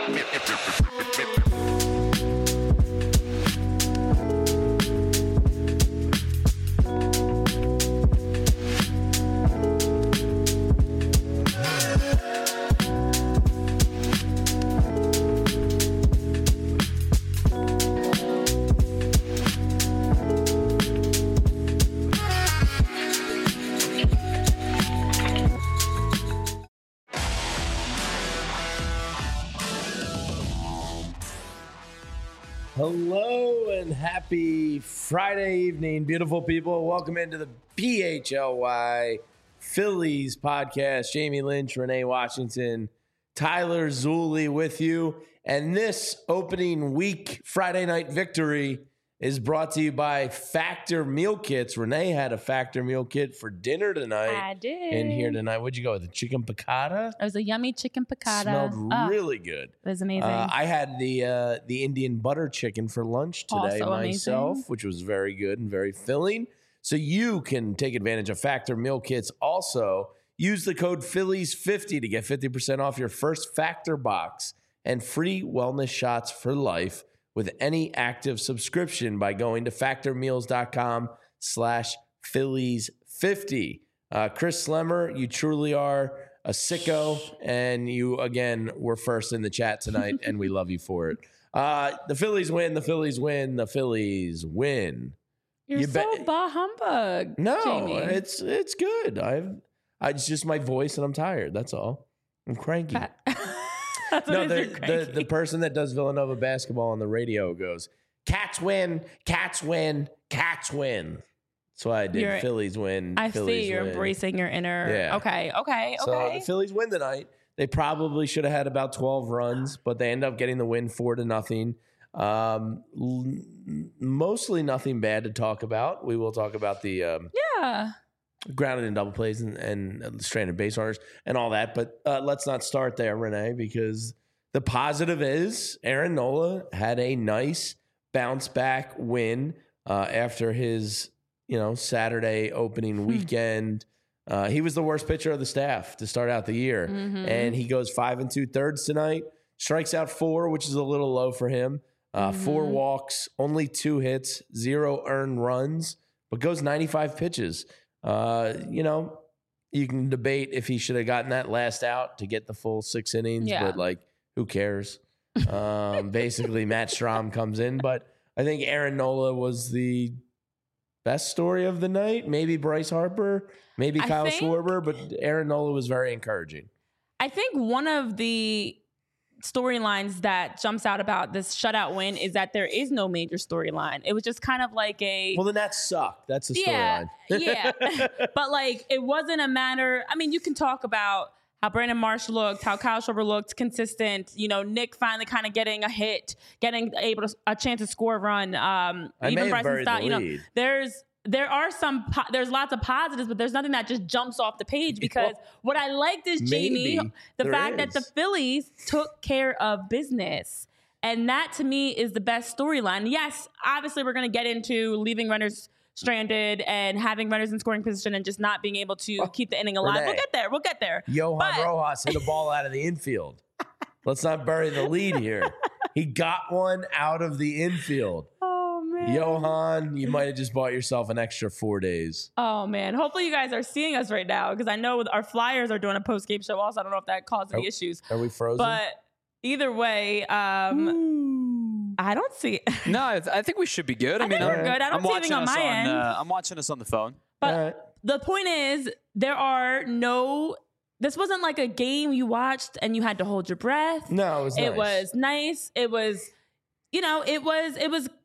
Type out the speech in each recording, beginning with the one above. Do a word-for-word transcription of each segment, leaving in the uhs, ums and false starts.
Hello and happy Friday evening, beautiful people. Welcome into the P H L Y Phillies podcast. Jamie Lynch, Renee Washington, Tyler Zulli with you. And this opening week Friday night victory is brought to you by Factor Meal Kits. Renee had a Factor Meal Kit for dinner tonight. I did. In here tonight. What'd you go with? The chicken piccata? It was a yummy chicken piccata. Smelled oh, really good. It was amazing. Uh, I had the uh, the Indian butter chicken for lunch today Also myself, amazing. which was very good and very filling. So you can take advantage of Factor Meal Kits. Also, use the code Phillies fifty to get fifty percent off your first Factor box and free wellness shots for life with any active subscription by going to factormeals.com slash Phillies fifty. Uh, Chris Slemmer, you truly are a sicko, and you, again, were first in the chat tonight, and we love you for it. Uh, the Phillies win, the Phillies win, the Phillies win. You're you so bet- bah humbug, No, Jamie. it's it's good. I've I, it's just my voice, and I'm tired. That's all. I'm cranky. That's No, what the, it is, you're the cranky. the person that does Villanova basketball on the radio goes, Cats win, Cats win, Cats win. That's why I did. You're- Phillies win. I Phillies see you're win. embracing your inner. Yeah. Okay, okay, So okay. the Phillies win tonight. They probably should have had about twelve runs, but they end up getting the win four to nothing. Um, l- mostly nothing bad to talk about. We will talk about the um, yeah. grounded and double plays and, and stranded base runners and all that. But uh, let's not start there, Renee, because the positive is Aaron Nola had a nice bounce back win uh, after his, you know, Saturday opening weekend. Uh, he was the worst pitcher of the staff to start out the year, Mhm. and he goes five and two thirds tonight. Strikes out four, which is a little low for him. Uh, Four Mhm. walks, only two hits, zero earned runs, but goes ninety-five pitches. Uh, you know, you can debate if he should have gotten that last out to get the full six innings, Yeah. but like, who cares? Um, basically, Matt Strahm comes in, but I think Aaron Nola was the best story of the night. Maybe Bryce Harper, maybe I Kyle think- Schwarber, but Aaron Nola was very encouraging. I think one of the storylines that jumps out about this shutout win is that there is no major storyline. It was just kind of like a Well, then that sucked. That's the yeah, storyline. yeah. But like, it wasn't a matter. I mean, you can talk about how Brandon Marsh looked, how Kyle Schwarber looked consistent. You know, Nick finally kind of getting a hit, getting able to a chance to score a run. Um, I may even have Bryson buried Stott. the You know, lead. there's. There are some, po- there's lots of positives, but there's nothing that just jumps off the page because what I liked is, Jamie, Maybe the there fact that the is. Phillies took care of business. And that to me is the best storyline. Yes, obviously we're going to get into leaving runners stranded and having runners in scoring position and just not being able to keep the inning alive. Renee. We'll get there. We'll get there. Johan But- Rojas hit a ball out of the infield. Let's not bury the lead here. He got one out of the infield. Oh, man. Johan, you might have just bought yourself an extra four days. Oh, man. Hopefully you guys are seeing us right now because I know our Flyers are doing a post-game show also. I don't know if that caused any Oh. issues. Are we frozen? But either way, um, Ooh. I don't see it. No, I, th- I think we should be good. I, I mean, think I'm, we're good. I don't I'm see watching anything on us my on. end. Uh, I'm watching us on the phone. But All right. the point is, there are no. This wasn't like a game you watched and you had to hold your breath. No, it was It nice. was nice. It was, you know, it was, it was,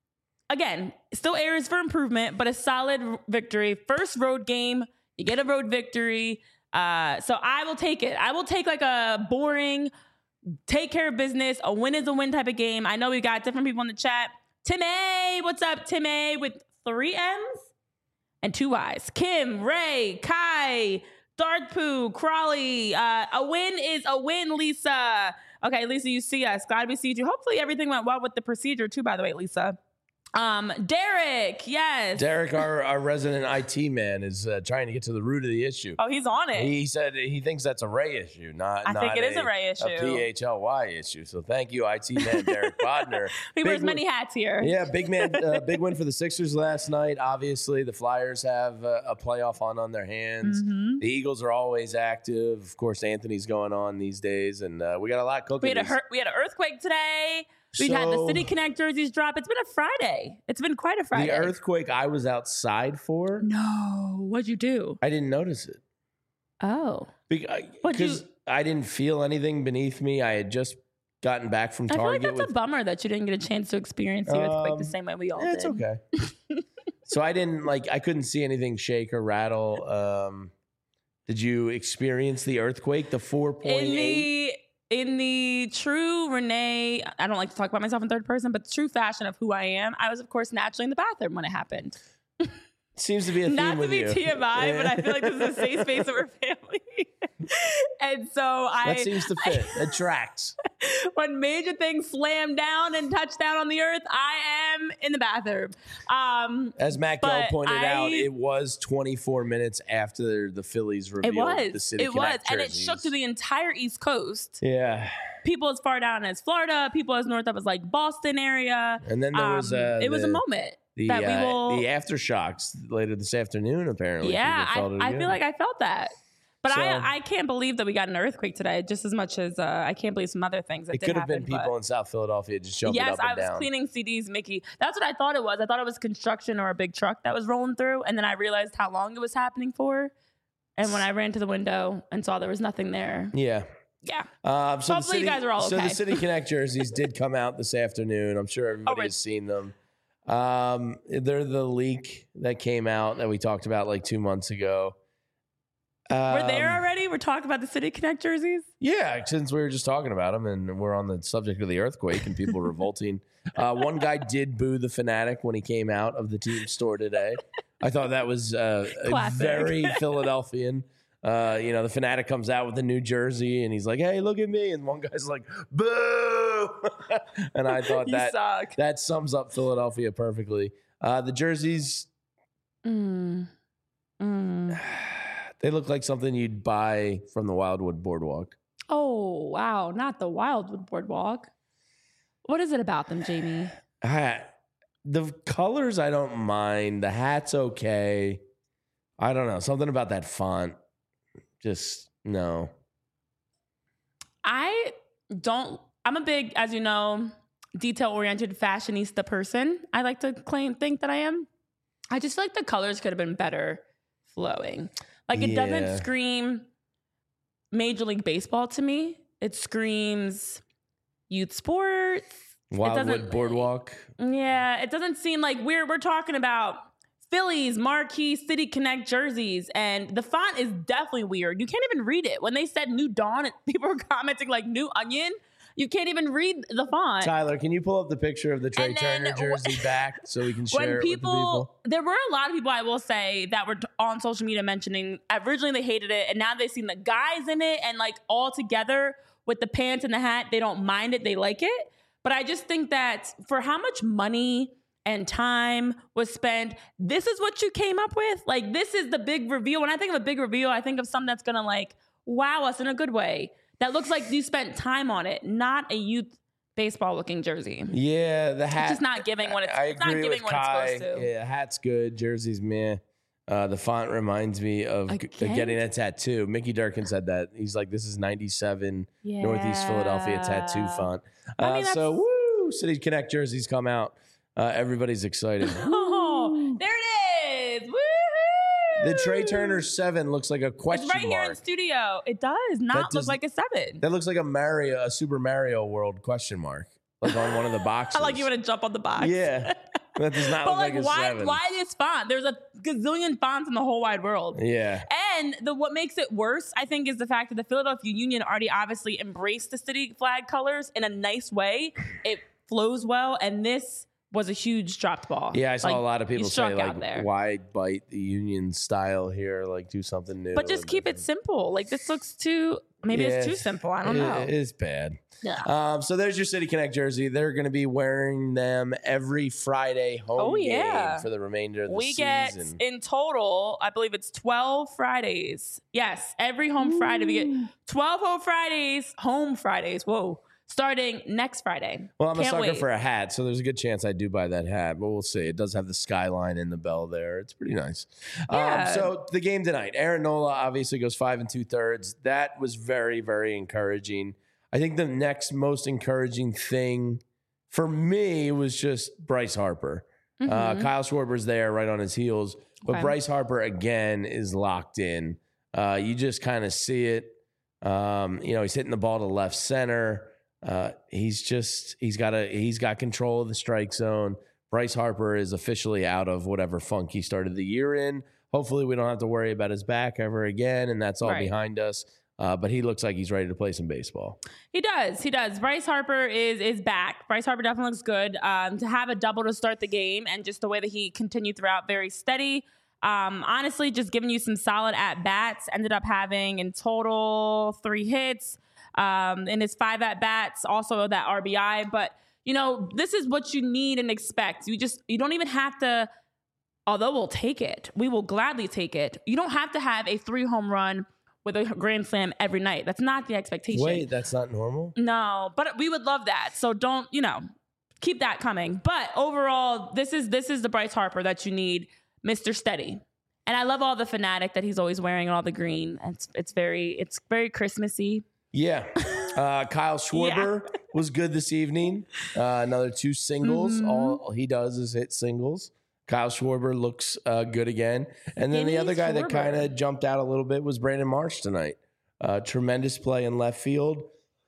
again, still areas for improvement, but a solid victory. First road game, you get a road victory. Uh, so I will take it. I will take like a boring, take care of business, a win is a win type of game. I know we got different people in the chat. Tim A, what's up, Tim A, with three M's and two Y's. Kim, Ray, Kai, Darkpoo, Crawley. Uh, a win is a win, Lisa. Okay, Lisa, you see us. Glad we see you. Hopefully everything went well with the procedure too, by the way, Lisa. Um, Derek, yes. Derek, our, our resident I T man, is uh, trying to get to the root of the issue. Oh, he's on it. He said he thinks that's a Ray issue, not I not think it a, is a Ray issue. a P H L Y issue. So thank you, I T man Derek Bodner. he Big wears win- many hats here. Yeah, big man, uh, big win for the Sixers last night. Obviously, the Flyers have uh, a playoff on on their hands. Mm-hmm. The Eagles are always active. Of course, Anthony's going on these days, and uh, we got a lot cooking. We had a these- hur- we had an earthquake today. We had the So- City Connect jerseys drop. It's been a Friday. It's been quite a Friday. The earthquake I was outside for, No, what'd you do? I didn't notice it. Oh, Because What'd you- I didn't feel anything beneath me. I had just gotten back from I feel like Target that's with a bummer that you didn't get a chance to experience the earthquake Um, the same way we all Yeah, did. it's okay. So I didn't like I couldn't see anything shake or rattle. Um, did you experience the earthquake, the four point In eight? the in the true Renee, I don't like to talk about myself in third person, but true fashion of who I am, I was of course naturally in the bathroom when it happened. Seems to be a theme Not to with be you. T M I, but I feel like this is a safe space of our family. And so I that seems to fit. It tracks. when major things slam down and touch down on the earth, I am in the bathroom. Um, As Matt Gill But pointed I- out, it was twenty-four minutes after the Phillies revealed it was. the City It was. Connect And it jerseys. shook to the entire East Coast. Yeah. People as far down as Florida, people as north up as like Boston area. And then there was Um, uh, it was a the- moment The, that we uh, will. the aftershocks later this afternoon, apparently. yeah, People I, felt it I again. feel like I felt that. But So- I, I can't believe that we got an earthquake today, just as much as uh, I can't believe some other things that it did could have happen. been people but- in South Philadelphia just jumping Yes, up and I was down. cleaning C Ds, Mickey. That's what I thought it was. I thought it was construction or a big truck that was rolling through, and then I realized how long it was happening for. And when I ran to the window and saw there was nothing there, Yeah. yeah, Um, so the Hopefully City, you guys are all So okay. the City Connect jerseys did come out this afternoon. I'm sure everybody right. has seen them. Um, they're the leak that came out that we talked about like two months ago. we're there Um, already. We're talking about the City Connect jerseys. Yeah, since we were just talking about them and we're on the subject of the earthquake and people revolting. Uh, one guy did boo the Fanatic when he came out of the team store today. I thought that was uh, a Classic. very Philadelphian. Uh, you know, the Fanatic comes out with a new jersey and he's like, "Hey, look at me!" And one guy's like, "Boo!" And I thought You that suck. that sums up Philadelphia perfectly. Uh, the jerseys, Mm. Mm. they look like something you'd buy from the Wildwood Boardwalk. Oh wow, not the Wildwood Boardwalk. What is it about them, Jamie? Ah, the colors I don't mind. The hat's okay. I don't know. Something about that font. Just no. I don't. I'm a big, as you know, detail-oriented fashionista person. I like to claim, think that I am. I just feel like the colors could have been better flowing. Like it Yeah. doesn't scream Major League Baseball to me. It screams youth sports. Wildwood doesn't- Boardwalk. Yeah, it doesn't seem like we're we're talking about Phillies marquee City Connect jerseys, and the font is definitely weird. You can't even read it. When they said New Dawn, people were commenting like New Onion. You can't even read the font. Tyler, can you pull up the picture of the Trey And then Turner jersey back so we can share When it people, with the people? there were a lot of people I will say that were t- on social media mentioning originally they hated it, and now they've seen the guys in it, and like all together with the pants and the hat, they don't mind it, they like it. But I just think that for how much money and time was spent, this is what you came up with. Like this is the big reveal. When I think of a big reveal, I think of something that's gonna like wow us in a good way. That looks like you spent time on it, not a youth baseball looking jersey. Yeah, the hat. It's just not giving what it's, I it's not agree giving with what Kai. it's supposed to. Yeah, hat's good. Jersey's meh. Uh, the font reminds me of g- Again? getting a tattoo. Mickey Durkin said that. He's like, this is ninety-seven Northeast Philadelphia tattoo font. I Uh, mean, so, that's- woo, City Connect jerseys come out. Uh, everybody's excited. Oh, there it is. Woo! The Trey Turner seven looks like a question It's right here in mark. studio. It does not does- look like a seven. That looks like a Mario, a Super Mario World question mark, like on one of the boxes. I like you want to jump on the box. Yeah, that does not But look like, like a why? seven. Why this font? There's a gazillion fonts in the whole wide world. Yeah, And the what makes it worse, I think, is the fact that the Philadelphia Union already obviously embraced the city flag colors in a nice way. It flows well, and this was a huge dropped ball. Yeah, I saw Like, a lot of he people struck say, out like, there. why bite the Union style here? Like, do something new. But just and keep it different. simple. Like, this looks too, maybe it's Yeah, too simple. I don't it- know. It is bad. Yeah. Um, so there's your City Connect jersey. They're going to be wearing them every Friday home Oh, yeah. game for the remainder of the We season. get in total, I believe it's twelve Fridays. Yes, every home Friday. We get twelve home Fridays, home Fridays. Whoa. Starting next Friday. Well, I'm a Can't sucker wait. for a hat, so there's a good chance I do buy that hat, but we'll see. It does have the skyline in the bell there. It's pretty nice. Yeah. Um, so the game tonight, Aaron Nola obviously goes five and two thirds. That was very, very encouraging. I think the next most encouraging thing for me was just Bryce Harper. Uh, Mhm. Kyle Schwarber's there right on his heels, but Okay. Bryce Harper again is locked in. Uh, you just kind of see it. Um, you know, he's hitting the ball to left center. Uh, he's just he's got a he's got control of the strike zone. Bryce Harper is officially out of whatever funk he started the year in. Hopefully, we don't have to worry about his back ever again, and that's all Right. behind us. Uh, but he looks like he's ready to play some baseball. He does. He does. Bryce Harper is is back. Bryce Harper definitely looks good. Um, to have a double to start the game and just the way that he continued throughout, very steady. Um, honestly, just giving you some solid at bats. Ended up having in total three hits. Um, in his five at bats, also that R B I. But you know, this is what you need and expect. You just you don't even have to. Although we'll take it, we will gladly take it. You don't have to have a three home run with a grand slam every night. That's not the expectation. Wait, that's not normal? No, but we would love that. So don't, you know, keep that coming. But overall, this is this is the Bryce Harper that you need, Mister Steady. And I love all the fanatic that he's always wearing, all the green. It's it's very it's very Christmassy. Yeah. Uh, Kyle Schwarber was good this evening. Uh, another two singles. Mhm. All he does is hit singles. Kyle Schwarber looks uh, good again. And then the Gimme other guy that Schwarber. kind of jumped out a little bit was Brandon Marsh tonight. Uh, tremendous play in left field.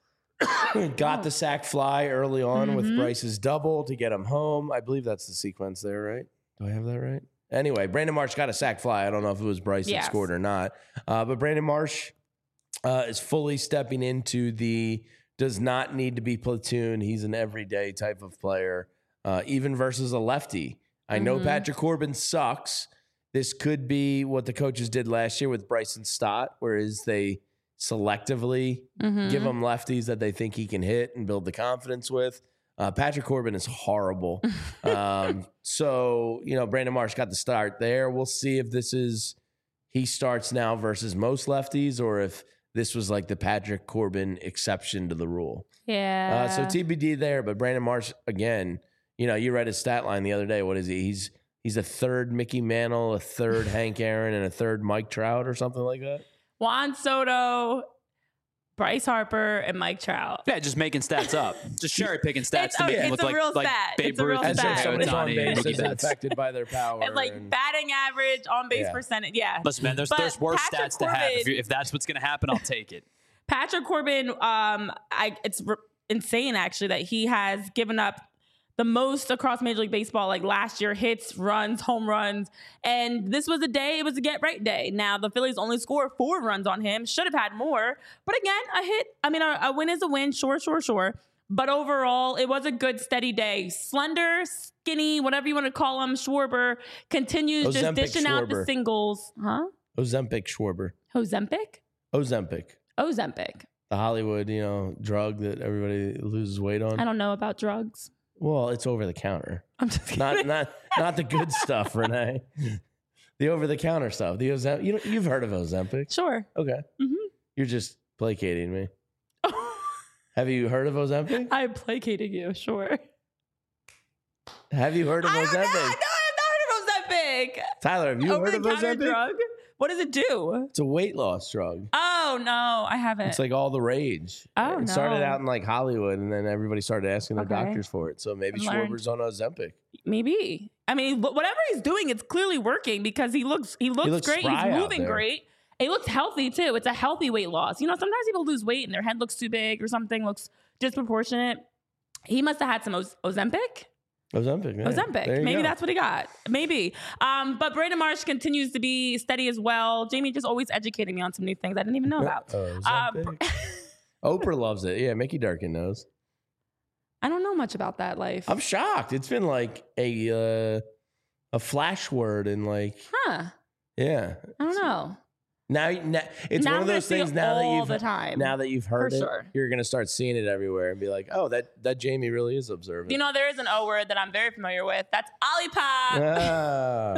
Got the sac fly early on with Mhm. Bryce's double to get him home. I believe that's the sequence there, right? Do I have that right? Anyway, Brandon Marsh got a sac fly. I don't know if it was Bryce Yes. that scored or not. Uh, but Brandon Marsh uh, is fully stepping into the does not need to be platoon. He's an everyday type of player, uh, even versus a lefty. I know Mhm. Patrick Corbin sucks. This could be what the coaches did last year with Bryson Stott, whereas they selectively Mhm. give him lefties that they think he can hit and build the confidence with. Uh, Patrick Corbin is horrible. um, so, you know, Brandon Marsh got the start there. We'll see if this is he starts now versus most lefties or if this was like the Patrick Corbin exception to the rule. Yeah. Uh, so T B D there, but Brandon Marsh, again, you know, you read his stat line the other day. What is he? He's he's a third Mickey Mantle, a third Hank Aaron, and a third Mike Trout or something like that. Juan Soto, Bryce Harper, and Mike Trout. Yeah, just making stats up. Just cherry picking stats It's to a- make them it's look a like, real like stat. Babe It's a real Ruth and As stat. if Shohei somebody's on Ohtani and base Mookie is Betts. affected by their power. And like and- batting average, on base Yeah. percentage. Yeah. Listen, man, there's But there's worse Patrick stats to have. If, Corbin- you, if that's what's going to happen, I'll take it. Patrick Corbin, um, I it's r- insane actually that he has given up the most across Major League Baseball, like last year, hits, runs, home runs. And this was a day, it was a get right day. Now, the Phillies only scored four runs on him, should have had more. But again, a hit, I mean, a, a win is a win, sure, sure, sure. But overall, it was a good, steady day. Slender, skinny, whatever you want to call him, Schwarber continues just Ozempic dishing out the Schwarber. singles. Huh? Ozempic Schwarber. Ozempic? Ozempic. Ozempic. The Hollywood, you know, drug that everybody loses weight on. I don't know about drugs. Well, it's over the counter. I'm just kidding. Not not not the good stuff, Renee. The over the counter stuff. The Ozempic. You know, you've heard of Ozempic. Sure. Okay. Mhm. You're just placating me. Have you heard of Ozempic? I'm placating you, sure. Have you heard of I don't know. No, I've Ozempic? not heard of Ozempic. Tyler, have you Over heard the of counter Ozempic? drug? What does it do? It's a weight loss drug. Oh no, I haven't. It's like all the rage. Oh, It started no. out in like Hollywood, and then everybody started asking their Okay. doctors for it. So maybe I've learned. Schwarber's on Ozempic. Maybe. I mean, wh- whatever he's doing, it's clearly working because he looks he looks, looks great. spry He's out moving there. great. He looks healthy too. It's a healthy weight loss. You know, sometimes people lose weight and their head looks too big or something looks disproportionate. He must have had some Oz- Ozempic. Ozempic. Yeah. There Ozempic. you Maybe go. that's what he got. Maybe. Um, but Brandon Marsh continues to be steady as well. Jamie just always educating me on some new things I didn't even know about. Oh, Uh, Ozempic. Oprah loves it. Yeah, Mickey Durkin knows. I I don't know much about that life. I'm shocked. It's been like a uh, a flash word and like, huh? yeah. I don't know. Now, now it's Now one I'm of gonna those see things. it Now that all you've the time. now that you've heard For it, sure. you're gonna start seeing it everywhere and be like, oh, that that Jamie really is observant. You know, there is an O word that I'm very familiar with. That's Olipop. Ah.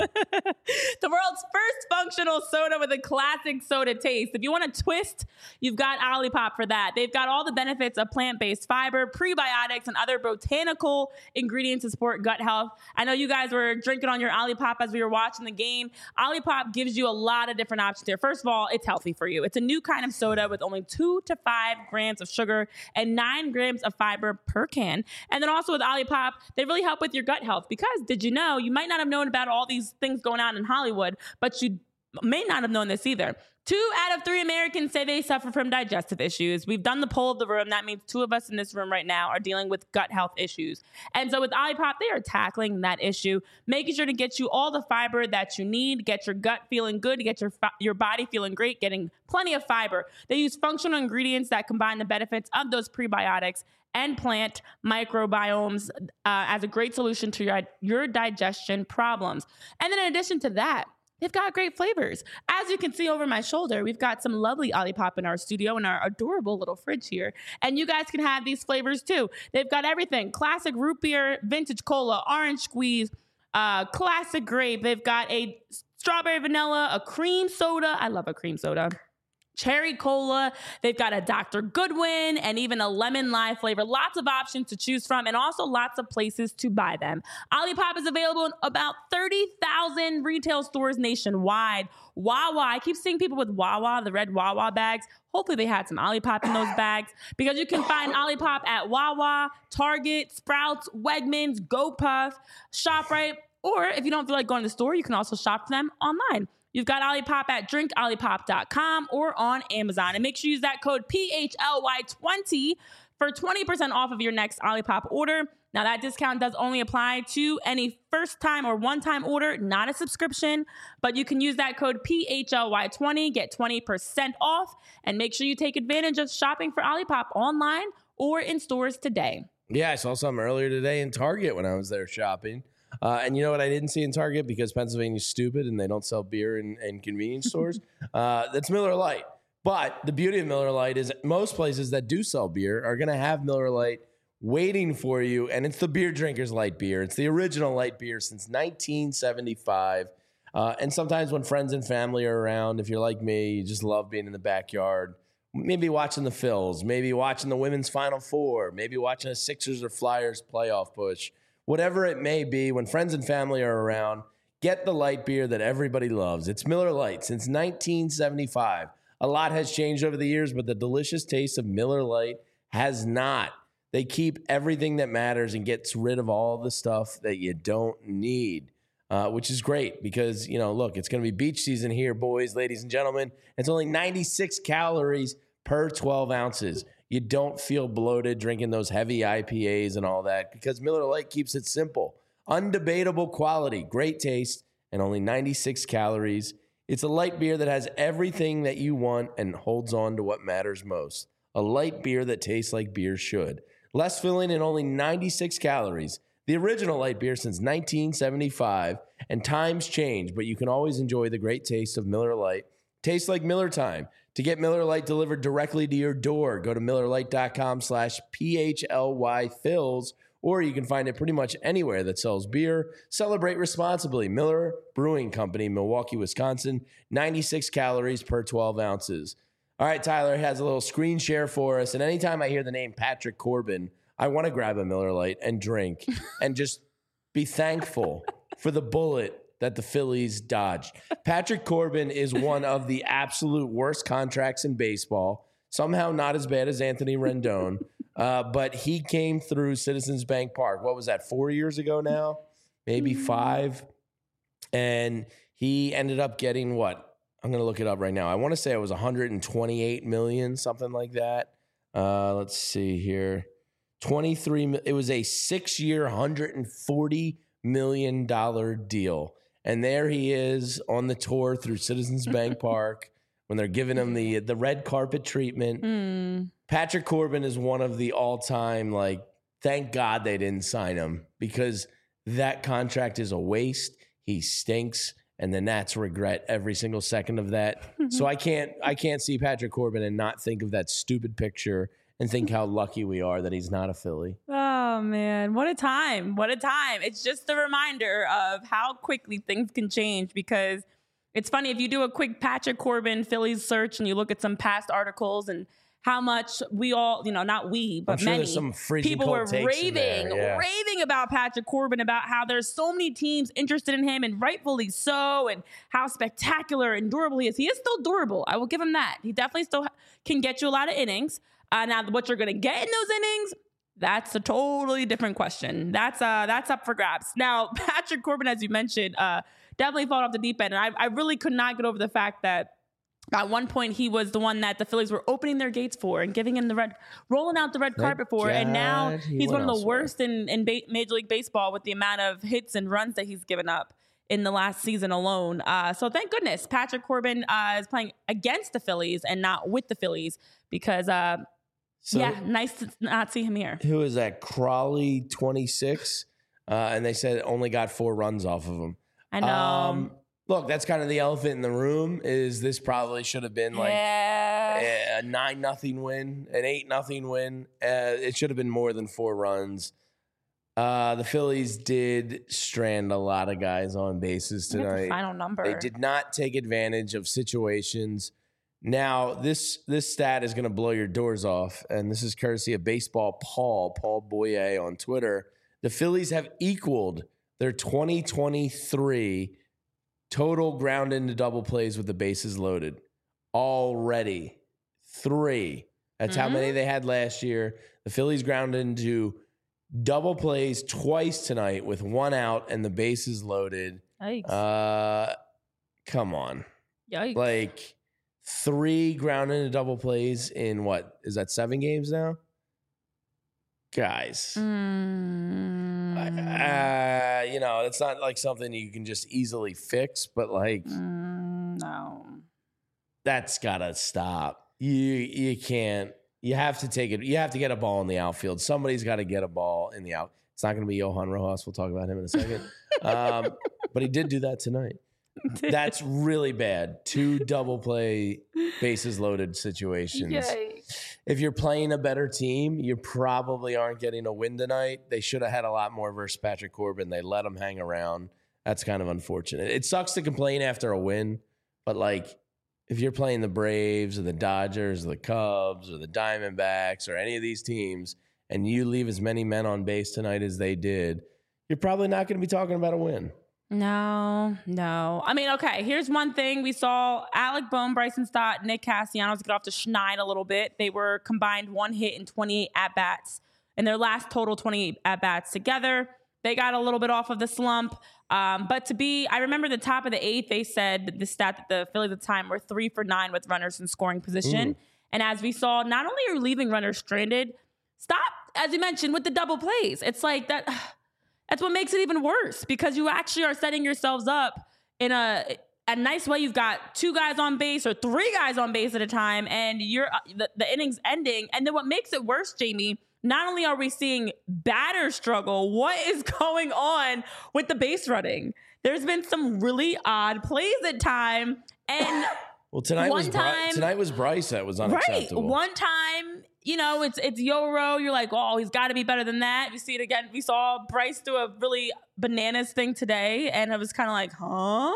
The world's first functional soda with a classic soda taste. If you want a twist, you've got Olipop for that. They've got all the benefits of plant-based fiber, prebiotics, and other botanical ingredients to support gut health. I know you guys were drinking on your Olipop as we were watching the game. Olipop gives you a lot of different options here. First of all, it's healthy for you. It's a new kind of soda with only two to five grams of sugar and nine grams of fiber per can. And then also with Olipop, they really help with your gut health because did you know, you might not have known about all these things going on in Hollywood, but you may not have known this either. Two out of three Americans say they suffer from digestive issues. We've done the poll of the room. That means two of us in this room right now are dealing with gut health issues. And so with Olipop, they are tackling that issue, making sure to get you all the fiber that you need, get your gut feeling good, get your your body feeling great, getting plenty of fiber. They use functional ingredients that combine the benefits of those prebiotics and plant microbiomes uh, as a great solution to your, your digestion problems. And then in addition to that, they've got great flavors. As you can see over my shoulder, we've got some lovely Olipop in our studio in our adorable little fridge here. And you guys can have these flavors too. They've got everything. Classic root beer, vintage cola, orange squeeze, uh, classic grape. They've got a strawberry vanilla, a cream soda. I love a cream soda. Cherry cola. They've got a Doctor Goodwin and even a lemon lime flavor. Lots of options to choose from and also lots of places to buy them. Olipop is available in about thirty thousand retail stores nationwide. Wawa. I keep seeing people with Wawa, the red Wawa bags. Hopefully they had some Olipop in those bags because you can find Olipop at Wawa, Target, Sprouts, Wegmans, GoPuff, ShopRite, or if you don't feel like going to the store, you can also shop for them online. You've got Olipop at drink olipop dot com or on Amazon. And make sure you use that code P H L Y twenty for twenty percent off of your next Olipop order. Now, that discount does only apply to any first-time or one-time order, not a subscription. But you can use that code P H L Y twenty, get twenty percent off, and make sure you take advantage of shopping for Olipop online or in stores today. Yeah, I saw something earlier today in Target when I was there shopping. Uh, and you know what I didn't see in Target because Pennsylvania's stupid and they don't sell beer in, in convenience stores? Uh, that's Miller Lite. But the beauty of Miller Lite is most places that do sell beer are going to have Miller Lite waiting for you. And it's the beer drinker's light beer. It's the original light beer since nineteen seventy-five. Uh, and sometimes when friends and family are around, if you're like me, you just love being in the backyard. Maybe watching the Phils, maybe watching the women's Final Four, maybe watching a Sixers or Flyers playoff push. Whatever it may be, when friends and family are around, get the light beer that everybody loves. It's Miller Lite since nineteen seventy-five. A lot has changed over the years, but the delicious taste of Miller Lite has not. They keep everything that matters and gets rid of all the stuff that you don't need, uh, which is great because, you know, look, it's going to be beach season here, boys, ladies, and gentlemen. It's only ninety-six calories per twelve ounces. You don't feel bloated drinking those heavy I P As and all that because Miller Lite keeps it simple. Undebatable quality, great taste, and only ninety-six calories. It's a light beer that has everything that you want and holds on to what matters most. A light beer that tastes like beer should. Less filling and only ninety-six calories. The original light beer since nineteen seventy-five. And times change, but you can always enjoy the great taste of Miller Lite. Tastes like Miller time. To get Miller Lite delivered directly to your door, go to miller lite dot com slash P H L Y Phils, or you can find it pretty much anywhere that sells beer. Celebrate responsibly. Miller Brewing Company, Milwaukee, Wisconsin, ninety-six calories per twelve ounces. All right, Tyler has a little screen share for us, and anytime I hear the name Patrick Corbin, I want to grab a Miller Lite and drink and just be thankful for the bullet that the Phillies dodged. Patrick Corbin is one of the absolute worst contracts in baseball. Somehow not as bad as Anthony Rendon, uh, but he came through Citizens Bank Park. What was that, four years ago now? Maybe five. And he ended up getting what? I'm going to look it up right now. I want to say it was one hundred twenty-eight million dollars, something like that. Uh, let's see here. twenty-three. It was a six-year, one hundred forty million dollars deal. And there he is on the tour through Citizens Bank Park when they're giving him the the red carpet treatment. Mm. Patrick Corbin is one of the all-time, like, thank God they didn't sign him because that contract is a waste. He stinks, and the Nats regret every single second of that. So I can't I can't see Patrick Corbin and not think of that stupid picture and think how lucky we are that he's not a Philly. Oh, man. What a time. What a time. It's just a reminder of how quickly things can change because it's funny if you do a quick Patrick Corbin Phillies search and you look at some past articles and how much we all, you know, not we, but I'm sure many there's some freezing people cold were takes in raving, there, yeah. raving about Patrick Corbin, about how there's so many teams interested in him and rightfully so, and how spectacular and durable he is. He is still durable. I will give him that. He definitely still can get you a lot of innings. Uh, now, what you're going to get in those innings, that's a totally different question. That's uh, that's up for grabs. Now, Patrick Corbin, as you mentioned, uh, definitely fallen off the deep end. And I, I really could not get over the fact that at one point, he was the one that the Phillies were opening their gates for and giving him the red, rolling out the red Thank carpet for. And now God he he's one went of the elsewhere. worst in, in ba- Major League Baseball with the amount of hits and runs that he's given up in the last season alone. Uh, so thank goodness Patrick Corbin uh, is playing against the Phillies and not with the Phillies because, uh, So yeah, nice to not see him here. who is that? Crawley twenty-six, uh, and they said only got four runs off of him. I know. Um, look, that's kind of the elephant in the room. Is this probably should have been like yeah. a nine nothing win, an eight nothing win? Uh, it should have been more than four runs. Uh, the Phillies did strand a lot of guys on bases Look at the tonight. final number. They did not take advantage of situations. Now, this this stat is going to blow your doors off, and this is courtesy of Baseball Paul, Paul Boyer on Twitter. The Phillies have equaled their twenty twenty-three total ground into double plays with the bases loaded already. Three. That's Mm-hmm. how many they had last year. The Phillies ground into double plays twice tonight with one out and the bases loaded. Yikes. Uh, come on. Yikes. Like three ground into double plays in what? Is that seven games now? Guys. Mm. Uh, you know, it's not like something you can just easily fix, but like Mm, no. that's gotta stop. You you can't. You have to take it. You have to get a ball in the outfield. Somebody's got to get a ball in the out. It's not going to be Johan Rojas. We'll talk about him in a second. um, but he did do that tonight. That's really bad. Two double play, bases loaded situations. Yikes. If you're playing a better team, you probably aren't getting a win tonight. They should have had a lot more versus Patrick Corbin. They let him hang around. That's kind of unfortunate. It sucks to complain after a win, but like if you're playing the Braves or the Dodgers or the Cubs or the Diamondbacks or any of these teams and you leave as many men on base tonight as they did, you're probably not going to be talking about a win. No, no. I mean, okay, here's one thing. We saw Alec Bohm, Bryson Stott, Nick Castellanos get off to Schneid a little bit. They were combined one hit and twenty-eight at-bats. In their last total twenty-eight at-bats together, they got a little bit off of the slump. Um, but to be, I remember the top of the eighth, they said the stat that the Phillies at the time were three for nine with runners in scoring position. Mm. And as we saw, not only are leaving runners stranded, stop, as you mentioned, with the double plays. It's like that. That's what makes it even worse because you actually are setting yourselves up in a a nice way. You've got two guys on base or three guys on base at a time, and you're the, the inning's ending. And then what makes it worse, Jamie? Not only are we seeing batters struggle, what is going on with the base running? There's been some really odd plays at time, and Well, tonight One was Bry- time- tonight was Bryce that was right, unacceptable. one time, you know, it's it's Yoro. You're like, oh, he's got to be better than that. We see it again. We saw Bryce do a really bananas thing today, and it was kind of like, huh?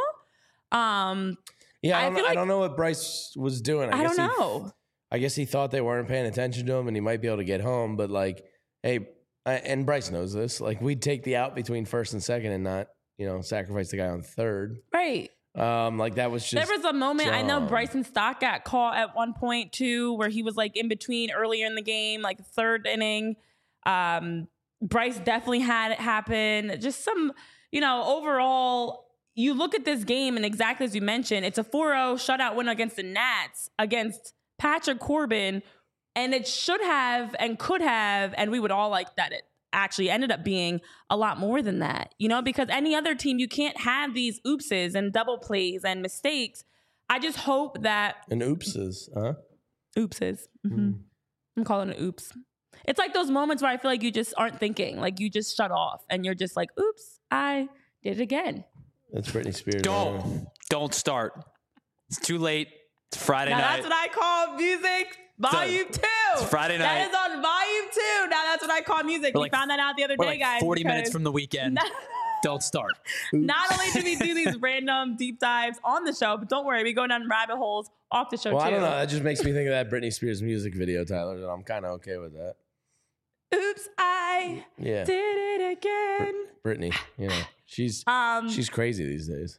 Um, yeah, I I don't, feel I like- don't know what Bryce was doing. I, I guess don't he- know. I guess he thought they weren't paying attention to him and he might be able to get home. But like, hey, I, and Bryce knows this. Like, we'd take the out between first and second and not, you know, sacrifice the guy on third. Right. Um, like that was just. There was a moment, I know dumb. Bryson Stott got caught at one point too, where he was like in between earlier in the game, like third inning. Um, Bryce definitely had it happen. Just some, you know, overall, you look at this game and exactly as you mentioned, it's a four oh shutout win against the Nats against Patrick Corbin. And it should have and could have, and we would all like that it actually ended up being a lot more than that, you know, because any other team, you can't have these oopses and double plays and mistakes. I just hope that And oopses, huh? oopses. Mm-hmm. Mm. I'm calling it oops. it's like those moments where I feel like you just aren't thinking, like you just shut off and you're just like, oops, I did it again. That's Britney Spears. Don't. Man. Don't start. It's too late. It's Friday Now night. that's what I call music volume two. It's Friday night. That is on volume two. Now that's what I call music. We're We like- found that out the other We're day, like guys. forty minutes because from the weekend. Not, Don't start. not only do we do these random deep dives on the show, but don't worry, we go down rabbit holes off the show Well, too. I don't know. That just makes me think of that Britney Spears music video, Tyler. And I'm kind of okay with that. Oops, I Yeah, did it again. Britney. You know, she's Um, she's crazy these days.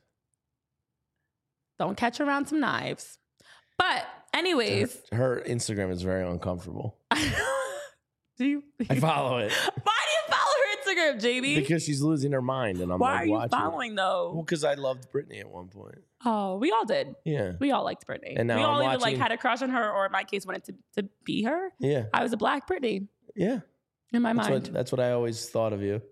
don't catch her around some knives. But anyways, Her Instagram is very uncomfortable. do you? I follow it Why do you follow her Instagram, J B? because she's losing her mind, and I'm Why like are you watching. following Well, though? because I loved Britney at one point. Oh, we all did. Yeah, We all liked Britney. And now we all I'm either like watching- had a crush on her, or in my case, wanted to, to be her. yeah, I was a black Britney yeah. in my That's mind. what that's what I always thought of you.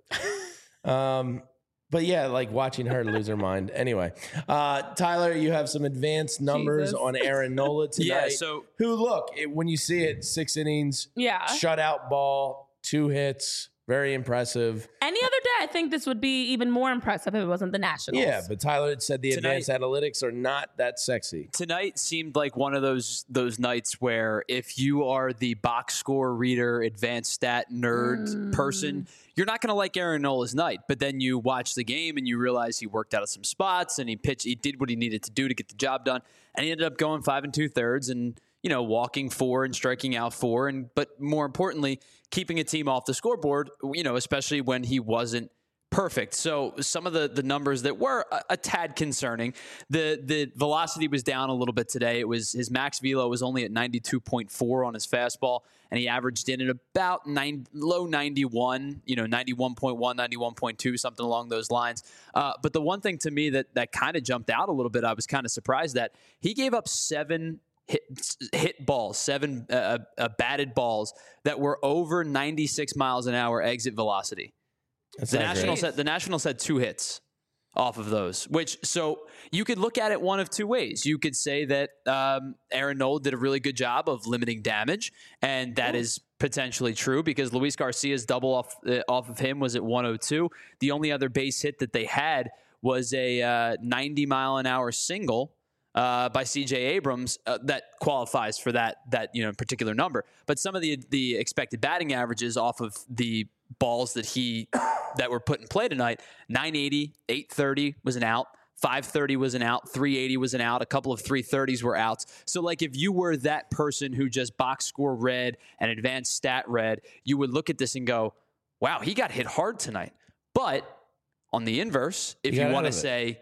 Um, but yeah, like watching her lose her mind. Anyway, uh, Tyler, you have some advanced numbers Jesus. on Aaron Nola tonight. Yeah, so who look it, when you see it, six innings, Yeah. shutout ball, two hits, very impressive. Any other day, I think this would be even more impressive if it wasn't the Nationals. Yeah, but Tyler had said the Tonight- advanced analytics are not that sexy. tonight seemed like one of those those nights where if you are the box score reader, advanced stat nerd Mm. person, you're not going to like Aaron Nola's night. But then you watch the game and you realize he worked out of some spots and he pitched, he did what he needed to do to get the job done, and he ended up going five and two thirds and you know walking four and striking out four, and but more importantly, keeping a team off the scoreboard. You know, especially when he wasn't perfect. So some of the the numbers that were a, a tad concerning. The the velocity was down a little bit today. It was his max velo was only at ninety-two point four on his fastball, and he averaged in at about nine, low ninety-one, you know, ninety-one point one, ninety-one point two, something along those lines. Uh, but the one thing to me that that kind of jumped out a little bit, I was kind of surprised that he gave up seven hit hit balls, seven uh, uh, batted balls that were over ninety-six miles an hour exit velocity. That's The not Nationals great. had the Nationals had two hits off of those, which so you could look at it one of two ways. You could say that um, Aaron Nola did a really good job of limiting damage, and that is potentially true because Luis Garcia's double off uh, off of him was at one oh two. The only other base hit that they had was a uh, ninety mile an hour single uh, by C J Abrams uh, that qualifies for that that you know particular number. But some of the the expected batting averages off of the balls that he that were put in play tonight, nine eighty, eight thirty was an out, five thirty was an out, three eighty was an out, a couple of three thirties were outs. So like if you were that person who just box score read and advanced stat read, you would look at this and go, wow, he got hit hard tonight. But on the inverse, if He you got want out to of it. say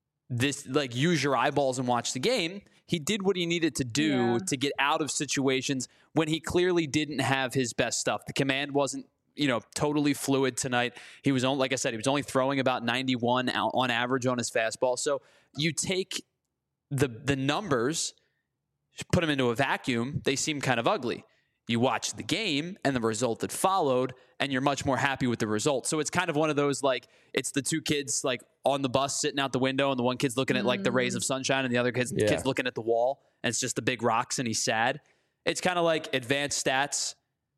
this, like use your eyeballs and watch the game, he did what he needed to do Yeah. to get out of situations when he clearly didn't have his best stuff. The command wasn't you know, totally fluid tonight. He was only, like I said, he was only throwing about ninety-one out on average on his fastball. So you take the the numbers, put them into a vacuum, they seem kind of ugly. You watch the game and the result that followed, and you're much more happy with the result. So it's kind of one of those, like, it's the two kids like on the bus sitting out the window, and the one kid's looking at like the rays of sunshine, and the other kid's, Yeah. kid's looking at the wall, and it's just the big rocks, and he's sad. It's kind of like advanced stats.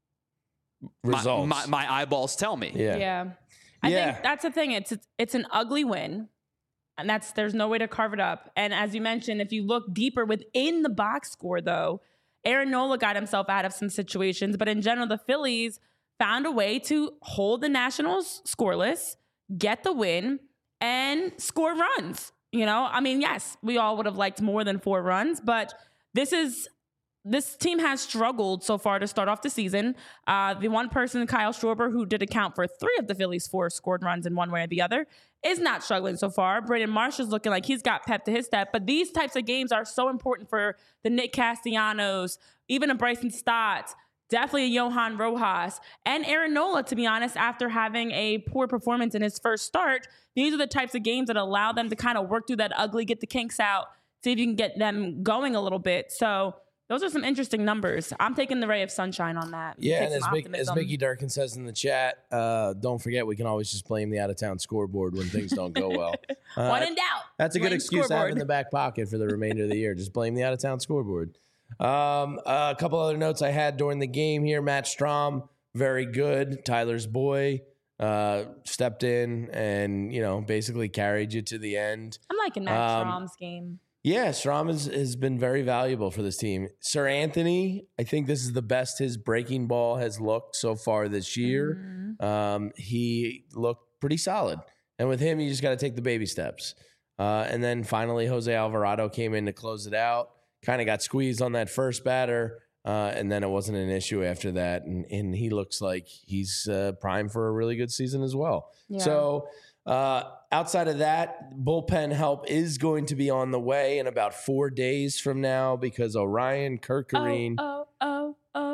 My- Results. My, my eyeballs tell me. yeah. Yeah. I Yeah. think that's the thing. It's, it's it's an ugly win. And that's there's no way to carve it up. And as you mentioned, if you look deeper within the box score, though, Aaron Nola got himself out of some situations. But in general, the Phillies found a way to hold the Nationals scoreless, get the win, and score runs. You know, I mean, yes, we all would have liked more than four runs, but this is this team has struggled so far to start off the season. Uh, the one person, Kyle Schwarber, who did account for three of the Phillies' four scored runs in one way or the other, is not struggling so far. Braden Marsh is looking like he's got pep to his step. But these types of games are so important for the Nick Castellanos, even a Bryson Stott, definitely a Johan Rojas, and Aaron Nola, to be honest, after having a poor performance in his first start. These are the types of games that allow them to kind of work through that ugly, get the kinks out, see if you can get them going a little bit. So those are some interesting numbers. I'm taking the ray of sunshine on that. Yeah, Take and as, some Mick, as optimism. Mickey Durkin says in the chat, uh, don't forget we can always just blame the out-of-town scoreboard when things don't go well. Uh, One in doubt. That's a good blame excuse to have scoreboard. in the back pocket for the remainder of the year. Just blame the out-of-town scoreboard. Um, uh, a couple other notes I had during the game here. Matt Strahm, very good. Tyler's boy uh, stepped in and, you know, basically carried you to the end. I'm liking that Um, Strom's game. Yeah, Strom has, has been very valuable for this team. Sir Anthony, I think this is the best his breaking ball has looked so far this year. Mhm. Um, he looked pretty solid. And with him, you just got to take the baby steps. Uh, and then finally, Jose Alvarado came in to close it out. Kind of got squeezed on that first batter. Uh, and then it wasn't an issue after that. And, and he looks like he's uh, primed for a really good season as well. Yeah. So uh, outside of that, bullpen help is going to be on the way in about four days from now because Orion Kirkarine Oh, oh, oh,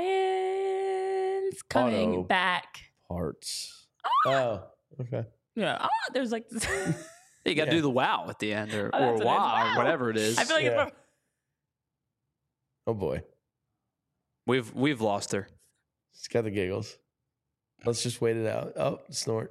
Orion's coming Auto. back. parts. Oh, okay. Yeah. Oh, there's like this. You got to Yeah. do the wow at the end, or, Oh, or that's what it is. wow, Wow. or whatever it is. I feel like Yeah. it's Oh boy, we've we've lost her. she's got the giggles. Let's just wait it out. Oh, snort.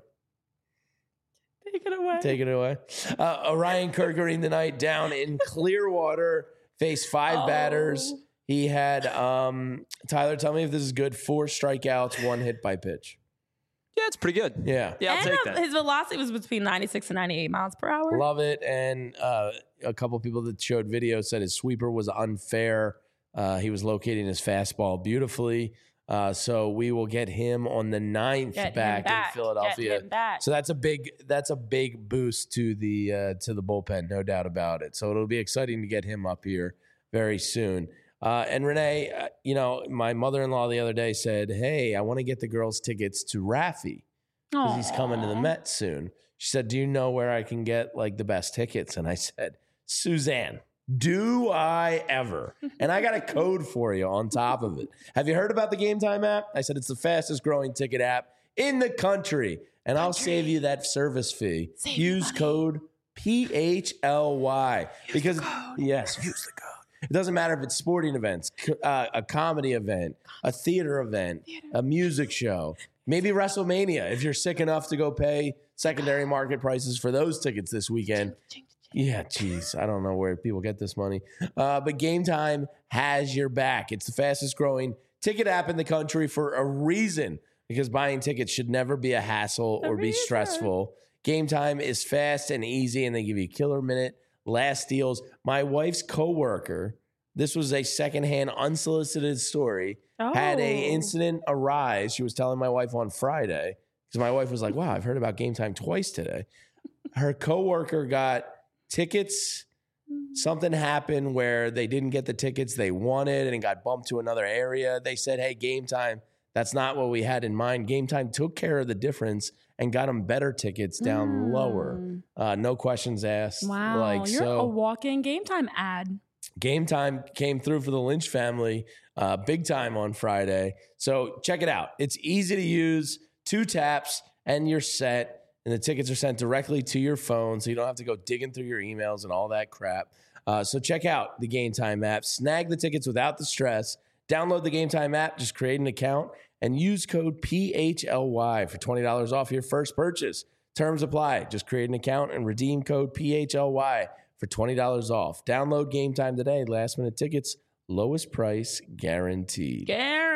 take it away. Take it away. Uh, Orion Kirkarine tonight down in Clearwater, faced five Oh. batters. He had, um, Tyler, tell me if this is good. Four strikeouts, one hit by pitch. Yeah, it's pretty good. Yeah. Yeah, I'll and take uh, that. his velocity was between ninety-six and ninety-eight miles per hour. Love it. And uh, a couple people that showed video said his sweeper was unfair. Uh, he was locating his fastball beautifully. Uh, so we will get him on the ninth Get him back, back. in Philadelphia. Get him back. So that's a big that's a big boost to the uh, to the bullpen, no doubt about it. So it'll be exciting to get him up here very soon. Uh, and Renee, uh, you know, my mother-in-law the other day said, "Hey, I want to get the girls tickets to Raffy because he's coming to the Aw. Mets soon." She said, "Do you know where I can get like the best tickets?" And I said, "Suzanne, do I ever?" And I got a code for you on top of it. Have you heard about the Game Time app? I said it's the fastest growing ticket app in the country. And I'll save you that service fee. Save Use money. code P H L Y. Because, yes, use the code. It doesn't matter if it's sporting events, co- uh, a comedy event, a theater event, a music show, maybe WrestleMania. If you're sick enough to go pay secondary market prices for those tickets this weekend. Yeah, geez, I don't know where people get this money. Uh, but Game Time has your back. It's the fastest growing ticket app in the country for a reason, because buying tickets should never be a hassle A or be reason. stressful. Game Time is fast and easy, and they give you killer minute last deals. My wife's coworker, this was a secondhand, unsolicited story, had a Oh. incident arise. She was telling my wife on Friday, because my wife was like, "Wow, I've heard about Game Time twice today." Her coworker got tickets. Something happened where they didn't get the tickets they wanted and it got bumped to another area. They said, "Hey, Game Time, that's not what we had in mind." Game Time took care of the difference and got them better tickets down lower. Mm. Uh, no questions asked. Wow, Like, you're so a walk-in Game Time ad. Game Time came through for the Lynch family uh, big time on Friday. So check it out. It's easy to use, two taps, and you're set. And the tickets are sent directly to your phone, so you don't have to go digging through your emails and all that crap. Uh, so check out the Game Time app. Snag the tickets without the stress. Download the Game Time app. Just create an account and use code P H L Y for twenty dollars off your first purchase. Terms apply. Just create an account and redeem code P H L Y for twenty dollars off. Download Game Time today. Last minute tickets, lowest price guaranteed.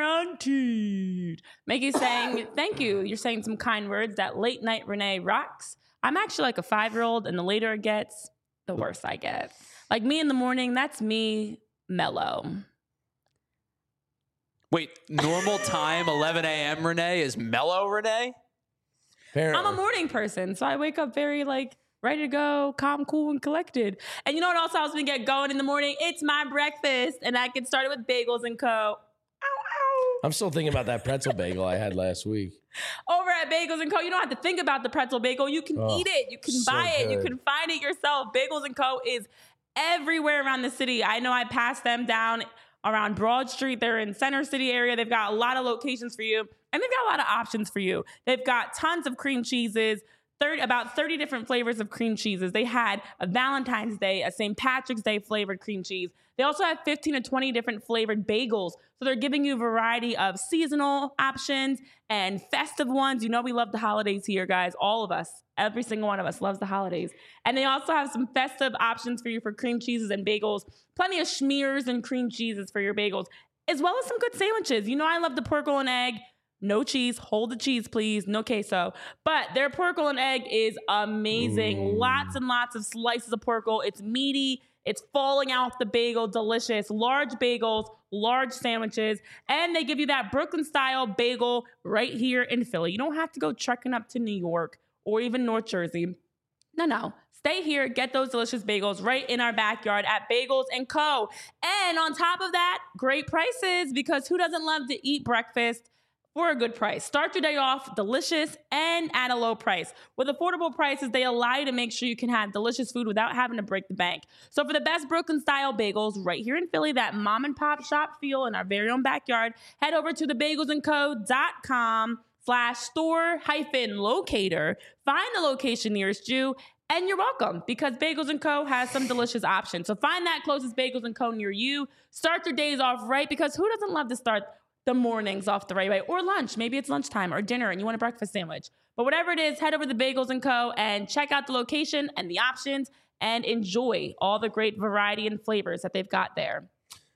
Guaranteed. Mickey's saying, thank you. You're saying some kind words. That late night Renee rocks. I'm actually like a five-year-old, and the later it gets, the worse I get. Like me in the morning, that's me mellow. Wait, normal time, eleven a.m. Renee is mellow Renee? Apparently. I'm a morning person, so I wake up very like ready to go, calm, cool, and collected. And you know what else helps me get going in the morning? It's my breakfast, and I get started with Bagels and Co. Ow, ow. I'm still thinking about that pretzel bagel I had last week. Over at Bagels and Co, you don't have to think about the pretzel bagel. You can Oh, eat it. You can so buy it. You good. can find it yourself. Bagels and Co is everywhere around the city. I know I passed them down around Broad Street. They're in Center City area. They've got a lot of locations for you, and they've got a lot of options for you. They've got tons of cream cheeses, thirty, about thirty different flavors of cream cheeses. They had a Valentine's Day, a Saint Patrick's Day flavored cream cheese. They also have fifteen to twenty different flavored bagels. So they're giving you a variety of seasonal options and festive ones. You know we love the holidays here, guys. All of us, every single one of us loves the holidays. And they also have some festive options for you for cream cheeses and bagels. Plenty of schmears and cream cheeses for your bagels, as well as some good sandwiches. You know I love the pork roll and egg. No cheese. Hold the cheese, please. No queso. But their pork roll and egg is amazing. Mm. Lots and lots of slices of pork roll. It's meaty. It's falling out the bagel. Delicious. Large bagels, large sandwiches. And they give you that Brooklyn-style bagel right here in Philly. You don't have to go trekking up to New York or even North Jersey. No, no. Stay here, get those delicious bagels right in our backyard at Bagels and Co. And on top of that, great prices, because who doesn't love to eat breakfast for a good price? Start your day off delicious and at a low price. With affordable prices, they allow you to make sure you can have delicious food without having to break the bank. So for the best Brooklyn-style bagels right here in Philly, that mom and pop shop feel in our very own backyard, head over to the bagels and co dot com slash store hyphen locator. Find the location nearest you. And you're welcome, because Bagels and Co. has some delicious options. So find that closest Bagels and Co. near you. Start your days off right, because who doesn't love to start the mornings off the right way? Or lunch. Maybe it's lunchtime or dinner and you want a breakfast sandwich. But whatever it is, head over to Bagels and Co. and check out the location and the options and enjoy all the great variety and flavors that they've got there.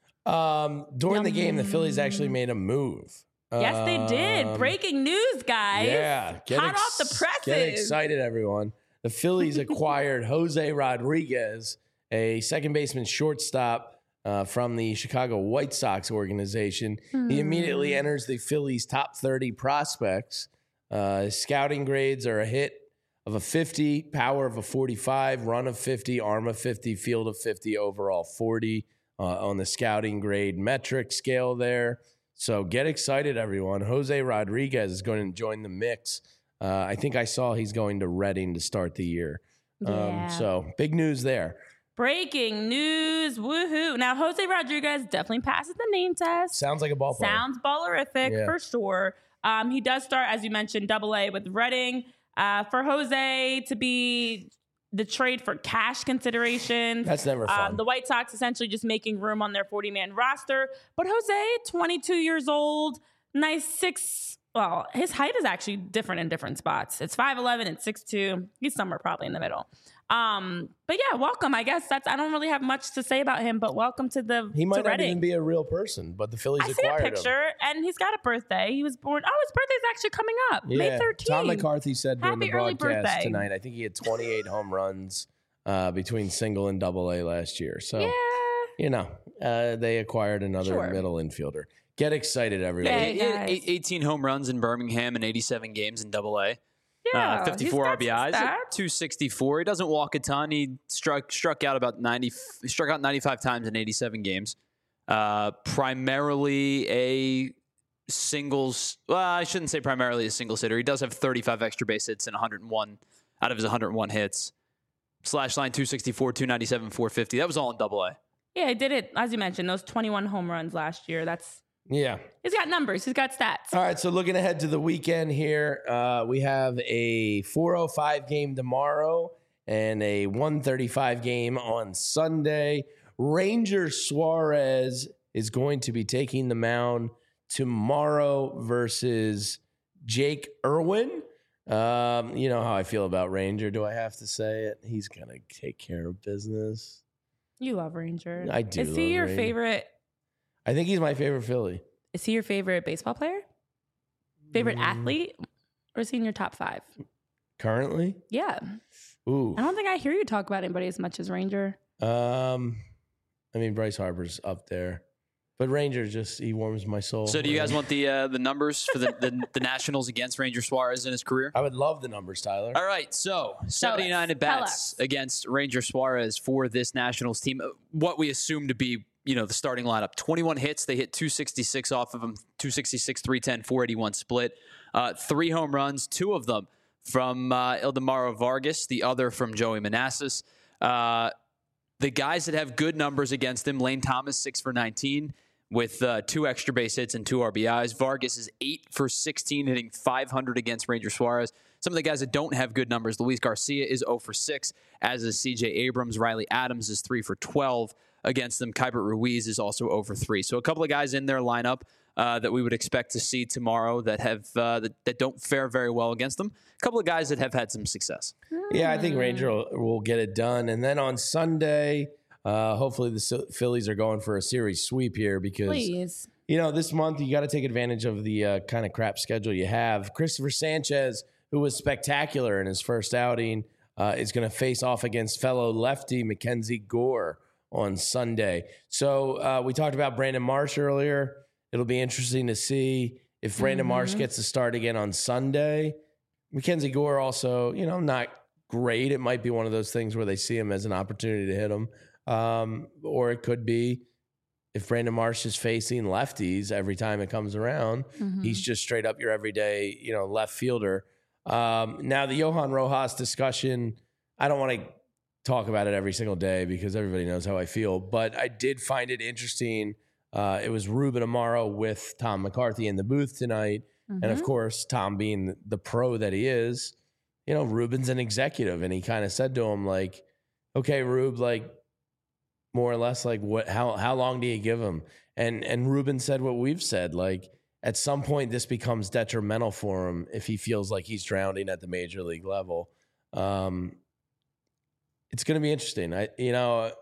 Um, during Yum. the game, the Phillies actually made a move. Yes, they did. Um, Breaking news, guys. Yeah. Get Hot ex- off the presses. Get excited, everyone. The Phillies acquired Jose Rodriguez, a second baseman shortstop uh, from the Chicago White Sox organization. Hmm. He immediately enters the Phillies' top thirty prospects. Uh, his scouting grades are a hit of a fifty, power of a forty-five, run of fifty, arm of fifty, field of fifty, overall forty uh, on the scouting grade metric scale there. So get excited, everyone. Jose Rodriguez is going to join the mix. Uh, I think I saw he's going to Reading to start the year. Yeah. Um, so big news there. Breaking news. Woohoo. Now, Jose Rodriguez definitely passes the name test. Sounds like a ball player. Sounds ballerific Yeah. for sure. Um, he does start, as you mentioned, double A with Reading. Uh, for Jose to be the trade for cash considerations. That's never fun. Um, the White Sox essentially just making room on their forty-man roster. But Jose, twenty-two years old, nice six. Well, his height is actually different in different spots. It's five eleven and six two. He's somewhere probably in the middle. Um, but yeah, welcome. I guess that's, I don't really have much to say about him, but welcome to the he might to not Reading. even be a real person, but the Phillies I see a acquired him. picture, and he's got a birthday. He was born. Oh, his birthday's actually coming up, Yeah. May thirteenth. Tom McCarthy said during Happy the early broadcast birthday. tonight, I think he had twenty-eight home runs uh, between single and double A last year. So, Yeah. you know, uh, they acquired another Sure. middle infielder. Get excited, everyone. Hey, He had guys. eight- eighteen home runs in Birmingham and eighty-seven games in Double A. Yeah, uh, fifty-four he's R B got Is, some at stats. two sixty-four. He doesn't walk a ton. He struck struck out about ninety. He struck out ninety-five times in eighty-seven games. Uh, primarily a singles. Well, I shouldn't say primarily a singles hitter. He does have thirty-five extra base hits and one hundred one out of his one hundred one hits. Slash line two sixty-four, two ninety-seven, four fifty. That was all in Double A. Yeah, he did it, as you mentioned, those twenty-one home runs last year. That's Yeah. He's got numbers. He's got stats. All right, so looking ahead to the weekend here, uh, we have a four oh five game tomorrow and a one thirty-five game on Sunday. Ranger Suarez is going to be taking the mound tomorrow versus Jake Irwin. Um, you know how I feel about Ranger. Do I have to say it? He's going to take care of business. You love Ranger. I do Is he love your Ranger. favorite? I think he's my favorite Philly. Is he your favorite baseball player? Favorite Mm, athlete? Or is he in your top five? Currently? Yeah. Ooh. I don't think I hear you talk about anybody as much as Ranger. Um, I mean, Bryce Harper's up there, but Ranger just he warms my soul. So, do you guys want the uh, the numbers for the, the the Nationals against Ranger Suarez in his career? I would love the numbers, Tyler. All right, so seventy-nine at Tell bats us. against Ranger Suarez for this Nationals team. What we assume to be, you know, the starting lineup. twenty-one hits. They hit two sixty-six off of them. two sixty-six, three ten, four eighty-one split. Uh, three home runs, two of them from uh, Ildemaro Vargas, the other from Joey Manassas. Uh, the guys that have good numbers against him, Lane Thomas, six for nineteen with uh, two extra base hits and two R B Is. Vargas is eight for sixteen, hitting five hundred against Ranger Suarez. Some of the guys that don't have good numbers, Luis Garcia is zero for six, as is C J Abrams. Riley Adams is three for twelve against them. Kybert Ruiz is also zero for three. So a couple of guys in their lineup uh, that we would expect to see tomorrow that have uh, that, that don't fare very well against them. A couple of guys that have had some success. Yeah, I think Ranger will, will get it done. And then on Sunday, uh, hopefully the S- Phillies are going for a series sweep here because Please. you know, this month you got to take advantage of the uh, kind of crap schedule you have. Christopher Sanchez, who was spectacular in his first outing, uh, is going to face off against fellow lefty Mackenzie Gore on Sunday. So uh, we talked about Brandon Marsh earlier. It'll be interesting to see if Brandon mm-hmm. Marsh gets to start again on Sunday. Mackenzie Gore also, you know, not great. It might be one of those things where they see him as an opportunity to hit him. Um, or it could be if Brandon Marsh is facing lefties every time it comes around, mm-hmm. he's just straight up your everyday, you know, left fielder. Um, now the Johan Rojas discussion, I don't want to talk about it every single day because everybody knows how I feel, but I did find it interesting. Uh, it was Ruben Amaro with Tom McCarthy in the booth tonight. Mm-hmm. And of course, Tom being the pro that he is, you know, Ruben's an executive, and he kind of said to him, like, okay, Rube, like, more or less, like, what, how, how long do you give him? And, and Ruben said what we've said, like, at some point this becomes detrimental for him if he feels like he's drowning at the major league level. Um, it's going to be interesting. I, you know,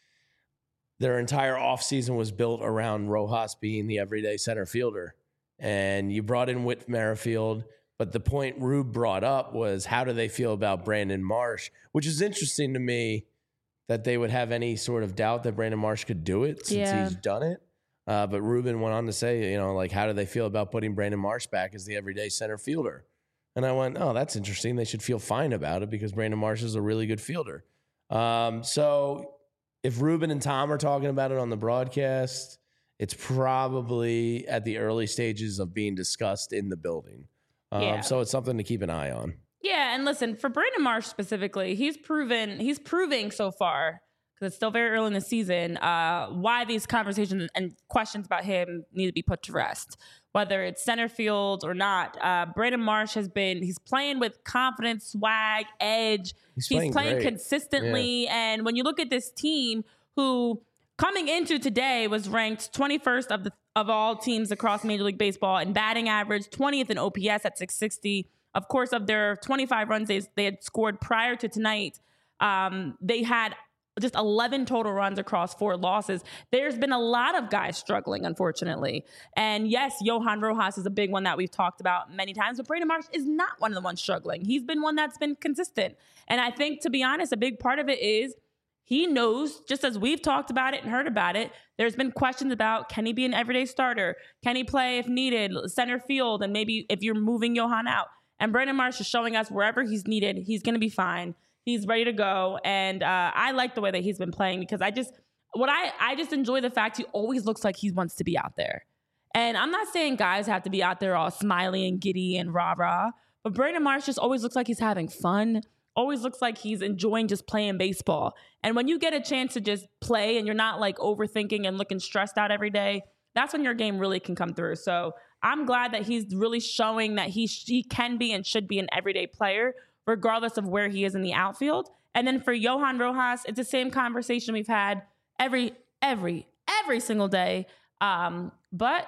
their entire offseason was built around Rojas being the everyday center fielder. And you brought in Whit Merrifield, but the point Rube brought up was how do they feel about Brandon Marsh, which is interesting to me that they would have any sort of doubt that Brandon Marsh could do it since yeah. he's done it. Uh, but Ruben went on to say, you know, like, how do they feel about putting Brandon Marsh back as the everyday center fielder? And I went, oh, that's interesting. They should feel fine about it because Brandon Marsh is a really good fielder. Um, so if Ruben and Tom are talking about it on the broadcast, it's probably at the early stages of being discussed in the building. Um, yeah. So it's something to keep an eye on. Yeah, and listen, for Brandon Marsh specifically, he's proven, he's proving so far, because it's still very early in the season, uh, why these conversations and questions about him need to be put to rest. Whether it's center field or not, uh, Brandon Marsh has been, he's playing with confidence, swag, edge. He's, he's playing, playing great. consistently. Yeah. And when you look at this team, who coming into today was ranked twenty-first of the of all teams across Major League Baseball in batting average, twentieth in O P S at six sixty. Of course, of their twenty-five runs they, they had scored prior to tonight, um, they had just eleven total runs across four losses. There's been a lot of guys struggling, unfortunately. And yes, Johan Rojas is a big one that we've talked about many times, but Brandon Marsh is not one of the ones struggling. He's been one that's been consistent. And I think, to be honest, a big part of it is he knows, just as we've talked about it and heard about it, there's been questions about, can he be an everyday starter? Can he play if needed, center field, and maybe if you're moving Johan out? And Brandon Marsh is showing us wherever he's needed, he's going to be fine. He's ready to go. And uh, I like the way that he's been playing because I just, what I, I just enjoy the fact he always looks like he wants to be out there. And I'm not saying guys have to be out there all smiley and giddy and rah-rah, but Brandon Marsh just always looks like he's having fun, always looks like he's enjoying just playing baseball. And when you get a chance to just play and you're not like overthinking and looking stressed out every day, that's when your game really can come through. So I'm glad that he's really showing that he, he can be and should be an everyday player, regardless of where he is in the outfield. And then for Johan Rojas, it's the same conversation we've had every, every, every single day. Um, but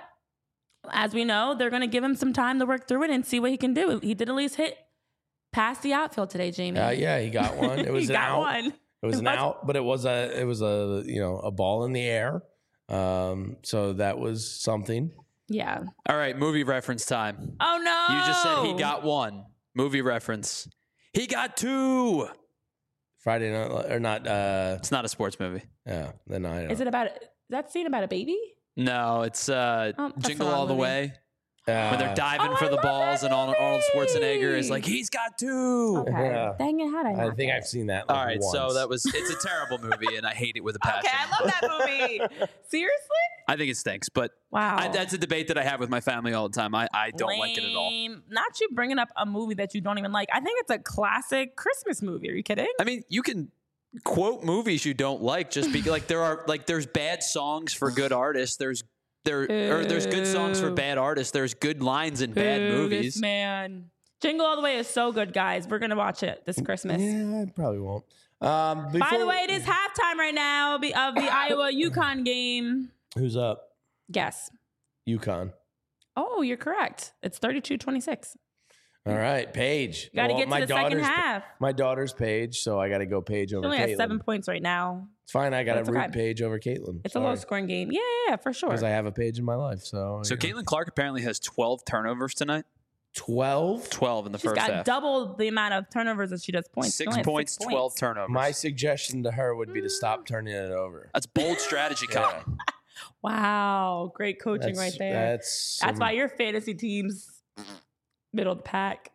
as we know, they're going to give him some time to work through it and see what he can do. He did at least hit past the outfield today, Jamie. Uh, yeah, he got one. It was he an got out. one. It was an out, but it was a, it was a, you know, a ball in the air. Um, so that was something. Yeah. All right, movie reference time. Oh, no. You just said he got one. Movie reference. He got two. Friday night, or not. Uh, it's not a sports movie. Yeah, then I don't. Is it about, is that scene about a baby? No, it's uh, oh, Jingle All the movie. Way. Uh, when they're diving oh, for I the love balls that and Arnold, Arnold Schwarzenegger is like, movie. he's got two. Okay. Yeah. Dang it, how did I I not think get I've it? seen that. Like All right, once. so that was, it's a terrible movie and I hate it with a passion. Okay, I love that movie. Seriously? I think it stinks, but Wow. I, that's a debate that I have with my family all the time. I, I don't Lame. like it at all. Not you bringing up a movie that you don't even like. I think it's a classic Christmas movie. Are you kidding? I mean, you can quote movies you don't like just be like there are like there's bad songs for good artists. There's there or there's good songs for bad artists. There's good lines in bad Boo, movies. This man. Jingle All the Way is so good, guys. We're gonna watch it this Christmas. Yeah, I probably won't. Um, By before- the way, it is halftime right now of the Iowa UConn game. Who's up? Guess. UConn. Oh, you're correct. It's thirty-two twenty-six. All right, Paige. Got to Well, get to my the second daughter's- half. My daughter's Paige, so I got to go Paige She over only has Caitlin. seven points right now. It's fine. I got to That's root okay. Paige over Caitlin. It's a low scoring game. Yeah, yeah, yeah, for sure. Because I have a Paige in my life. So, So you know. Caitlin Clark apparently has twelve turnovers tonight. twelve? twelve in the She's first got half. double the amount of turnovers as she does points. She Six only has points, six twelve points. turnovers. My suggestion to her would be to stop turning it over. That's bold strategy, Colin. Yeah. Wow, great coaching That's, right there. That's, That's some- why your fantasy team's middle of the pack.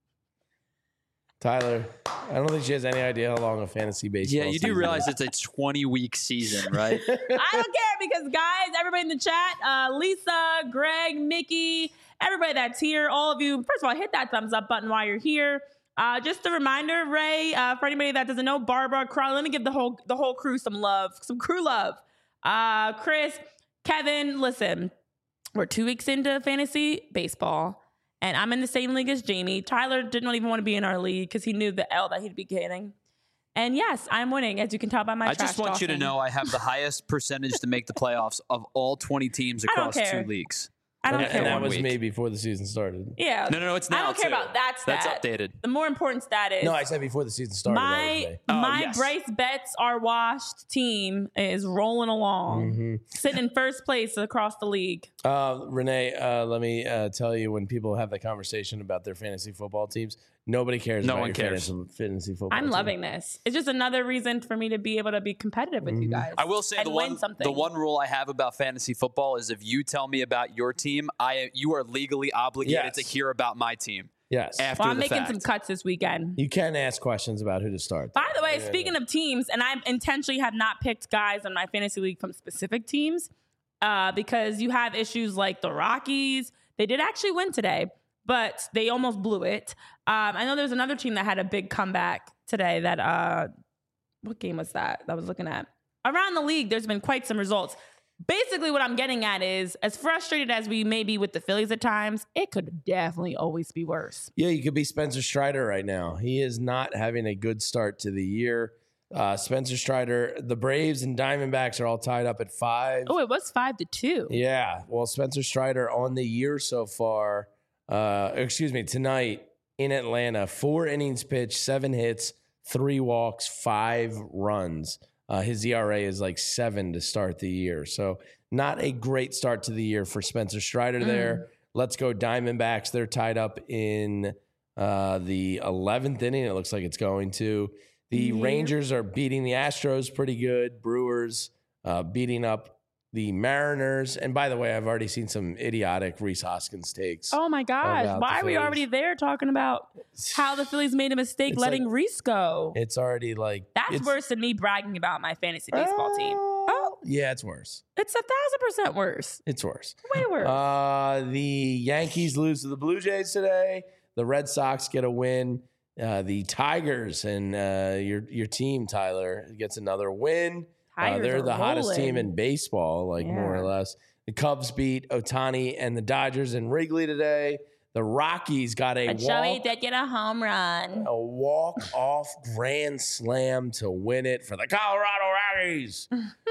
Tyler, I don't think she has any idea how long a fantasy baseball Yeah, you do season realize is. it's a twenty-week season, right? I don't care because, guys, everybody in the chat, uh, Lisa, Greg, Mickey, everybody that's here, all of you, first of all, hit that thumbs up button while you're here. Uh, just a reminder, Ray, uh, for anybody that doesn't know, Barbara, Carl, let me give the whole the whole crew some love, some crew love. Uh, Chris, Kevin, listen, we're two weeks into fantasy baseball, and I'm in the same league as Jamie. Tyler didn't even want to be in our league because he knew the L that he'd be getting. And yes, I'm winning, as you can tell by my I trash just want you to talking. know I have the highest percentage to make the playoffs of all twenty teams I don't across care. two leagues. I don't and, care. and that One was week. me before the season started. Yeah. No, no, no, it's I now, don't care too. about that stat. That's updated. The more important stat is No, I said before the season started. that was my me. Oh, my yes. Bryce Betts are washed team is rolling along, Mhm. sitting in first place across the league. Uh, Renee, uh, let me uh, tell you, when people have the conversation about their fantasy football teams, nobody cares No about one your cares. Fantasy, fantasy football I'm team. loving this. It's just another reason for me to be able to be competitive with you guys. Mm-hmm. I will say and the win one something. the one rule I have about fantasy football is if you tell me about your team, I you are legally obligated Yes. to hear about my team Yes. after Well, I'm the making fact. some cuts this weekend. You can ask questions about who to start. By the way, Yeah, speaking of teams, and I intentionally have not picked guys on my fantasy league from specific teams uh, because you have issues like the Rockies. They did actually win today, but they almost blew it. Um, I know there's another team that had a big comeback today that, uh, what game was that that I was looking at? Around the league, there's been quite some results. Basically, what I'm getting at is, as frustrated as we may be with the Phillies at times, it could definitely always be worse. Yeah, you could be Spencer Strider right now. He is not having a good start to the year. Uh, Spencer Strider, the Braves and Diamondbacks are all tied up at five. Oh, it was five to two. Yeah, well, Spencer Strider on the year so far, uh, excuse me, tonight in Atlanta, four innings pitched, seven hits, three walks, five runs. Uh, his E R A is like seven to start the year. So not a great start to the year for Spencer Strider there. Let's go Diamondbacks. They're tied up in uh, the eleventh inning. It looks like it's going to. The Yeah. Rangers are beating the Astros pretty good. Brewers uh, beating up the Mariners. And by the way, I've already seen some idiotic Reese Hoskins takes. Oh my gosh. about Why the are we Phillies. already there talking about how the Phillies made a mistake It's letting like- Reese go? It's already like That's it's, worse than me bragging about my fantasy baseball team. Oh, yeah, it's worse. It's a thousand percent worse. It's worse. Way worse. Uh, the Yankees lose to the Blue Jays today. The Red Sox get a win. Uh, the Tigers and uh, your your team, Tyler, gets another win. Uh, Tigers they're are the hottest rolling. team in baseball, like more or Yeah. less. The Cubs beat Otani and the Dodgers in Wrigley today. The Rockies got a But Joey walk, did get a home run. a walk off grand slam to win it for the Colorado Rockies.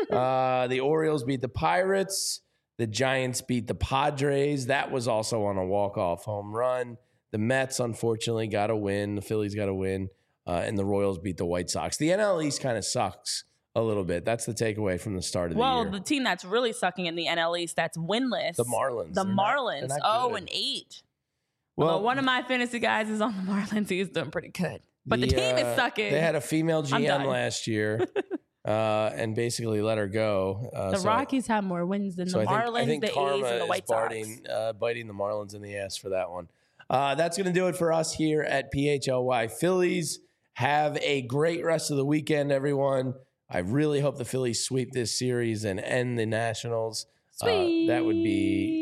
uh, the Orioles beat the Pirates. The Giants beat the Padres. That was also on a walk off home run. The Mets, unfortunately, got a win. The Phillies got a win. Uh, and the Royals beat the White Sox. The N L East kind of sucks a little bit. That's the takeaway from the start of the Well, year. the team that's really sucking in the N L East that's winless. The Marlins. The They're not- Marlins. they're not oh, good. and eight. Well, Although one of my fantasy guys is on the Marlins. He's doing pretty good. But the, team uh, is sucking. They had a female G I'm M done. last year uh, and basically let her go. Uh, the so I- Rockies have more wins than So the I think, Marlins, I think the A's, karma and the White is Sox. biting, uh, biting the Marlins in the ass for that one. Uh, that's going to do it for us here at P H L Y Phillies. Have a great rest of the weekend, everyone. I really hope the Phillies sweep this series and end the Nationals. Uh, Sweet. that would be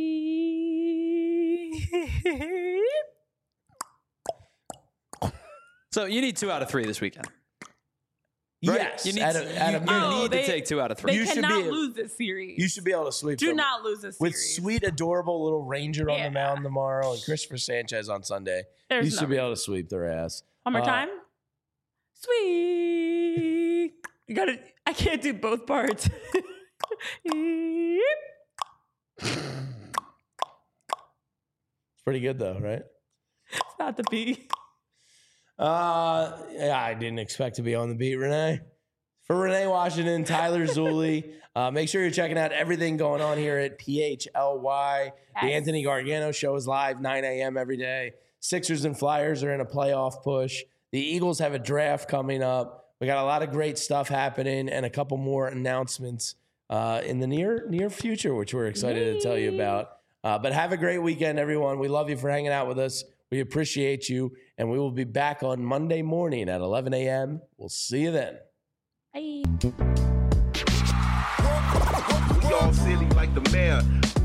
So you need two out of three this weekend. Right? yes. You need, at a, at you, a you minimum. Oh, need they- to take two out of They three. You should cannot be- lose this series. You should be able to sweep Do them. not lose this With series. sweet, adorable little Ranger on Yeah. the mound tomorrow and Christopher Sanchez on Sunday. There's you no should be reason. able to sweep their ass. One more Uh, time. Sweet. You gotta. I can't do both parts. It's pretty good though, right? Not the beat. Uh, yeah, I didn't expect to be on the beat, Renee. For Renee Washington, Tyler Zulli, uh, make sure you're checking out everything going on here at P H L Y. The Yes. Anthony Gargano show is live nine a.m. every day. Sixers and Flyers are in a playoff push. The Eagles have a draft coming up. We got a lot of great stuff happening and a couple more announcements uh, in the near near future, which we're excited Yay. to tell you about. Uh, but have a great weekend, everyone. We love you for hanging out with us. We appreciate you, and we will be back on Monday morning at eleven a.m. We'll see you then. Bye. We all silly like the mayor.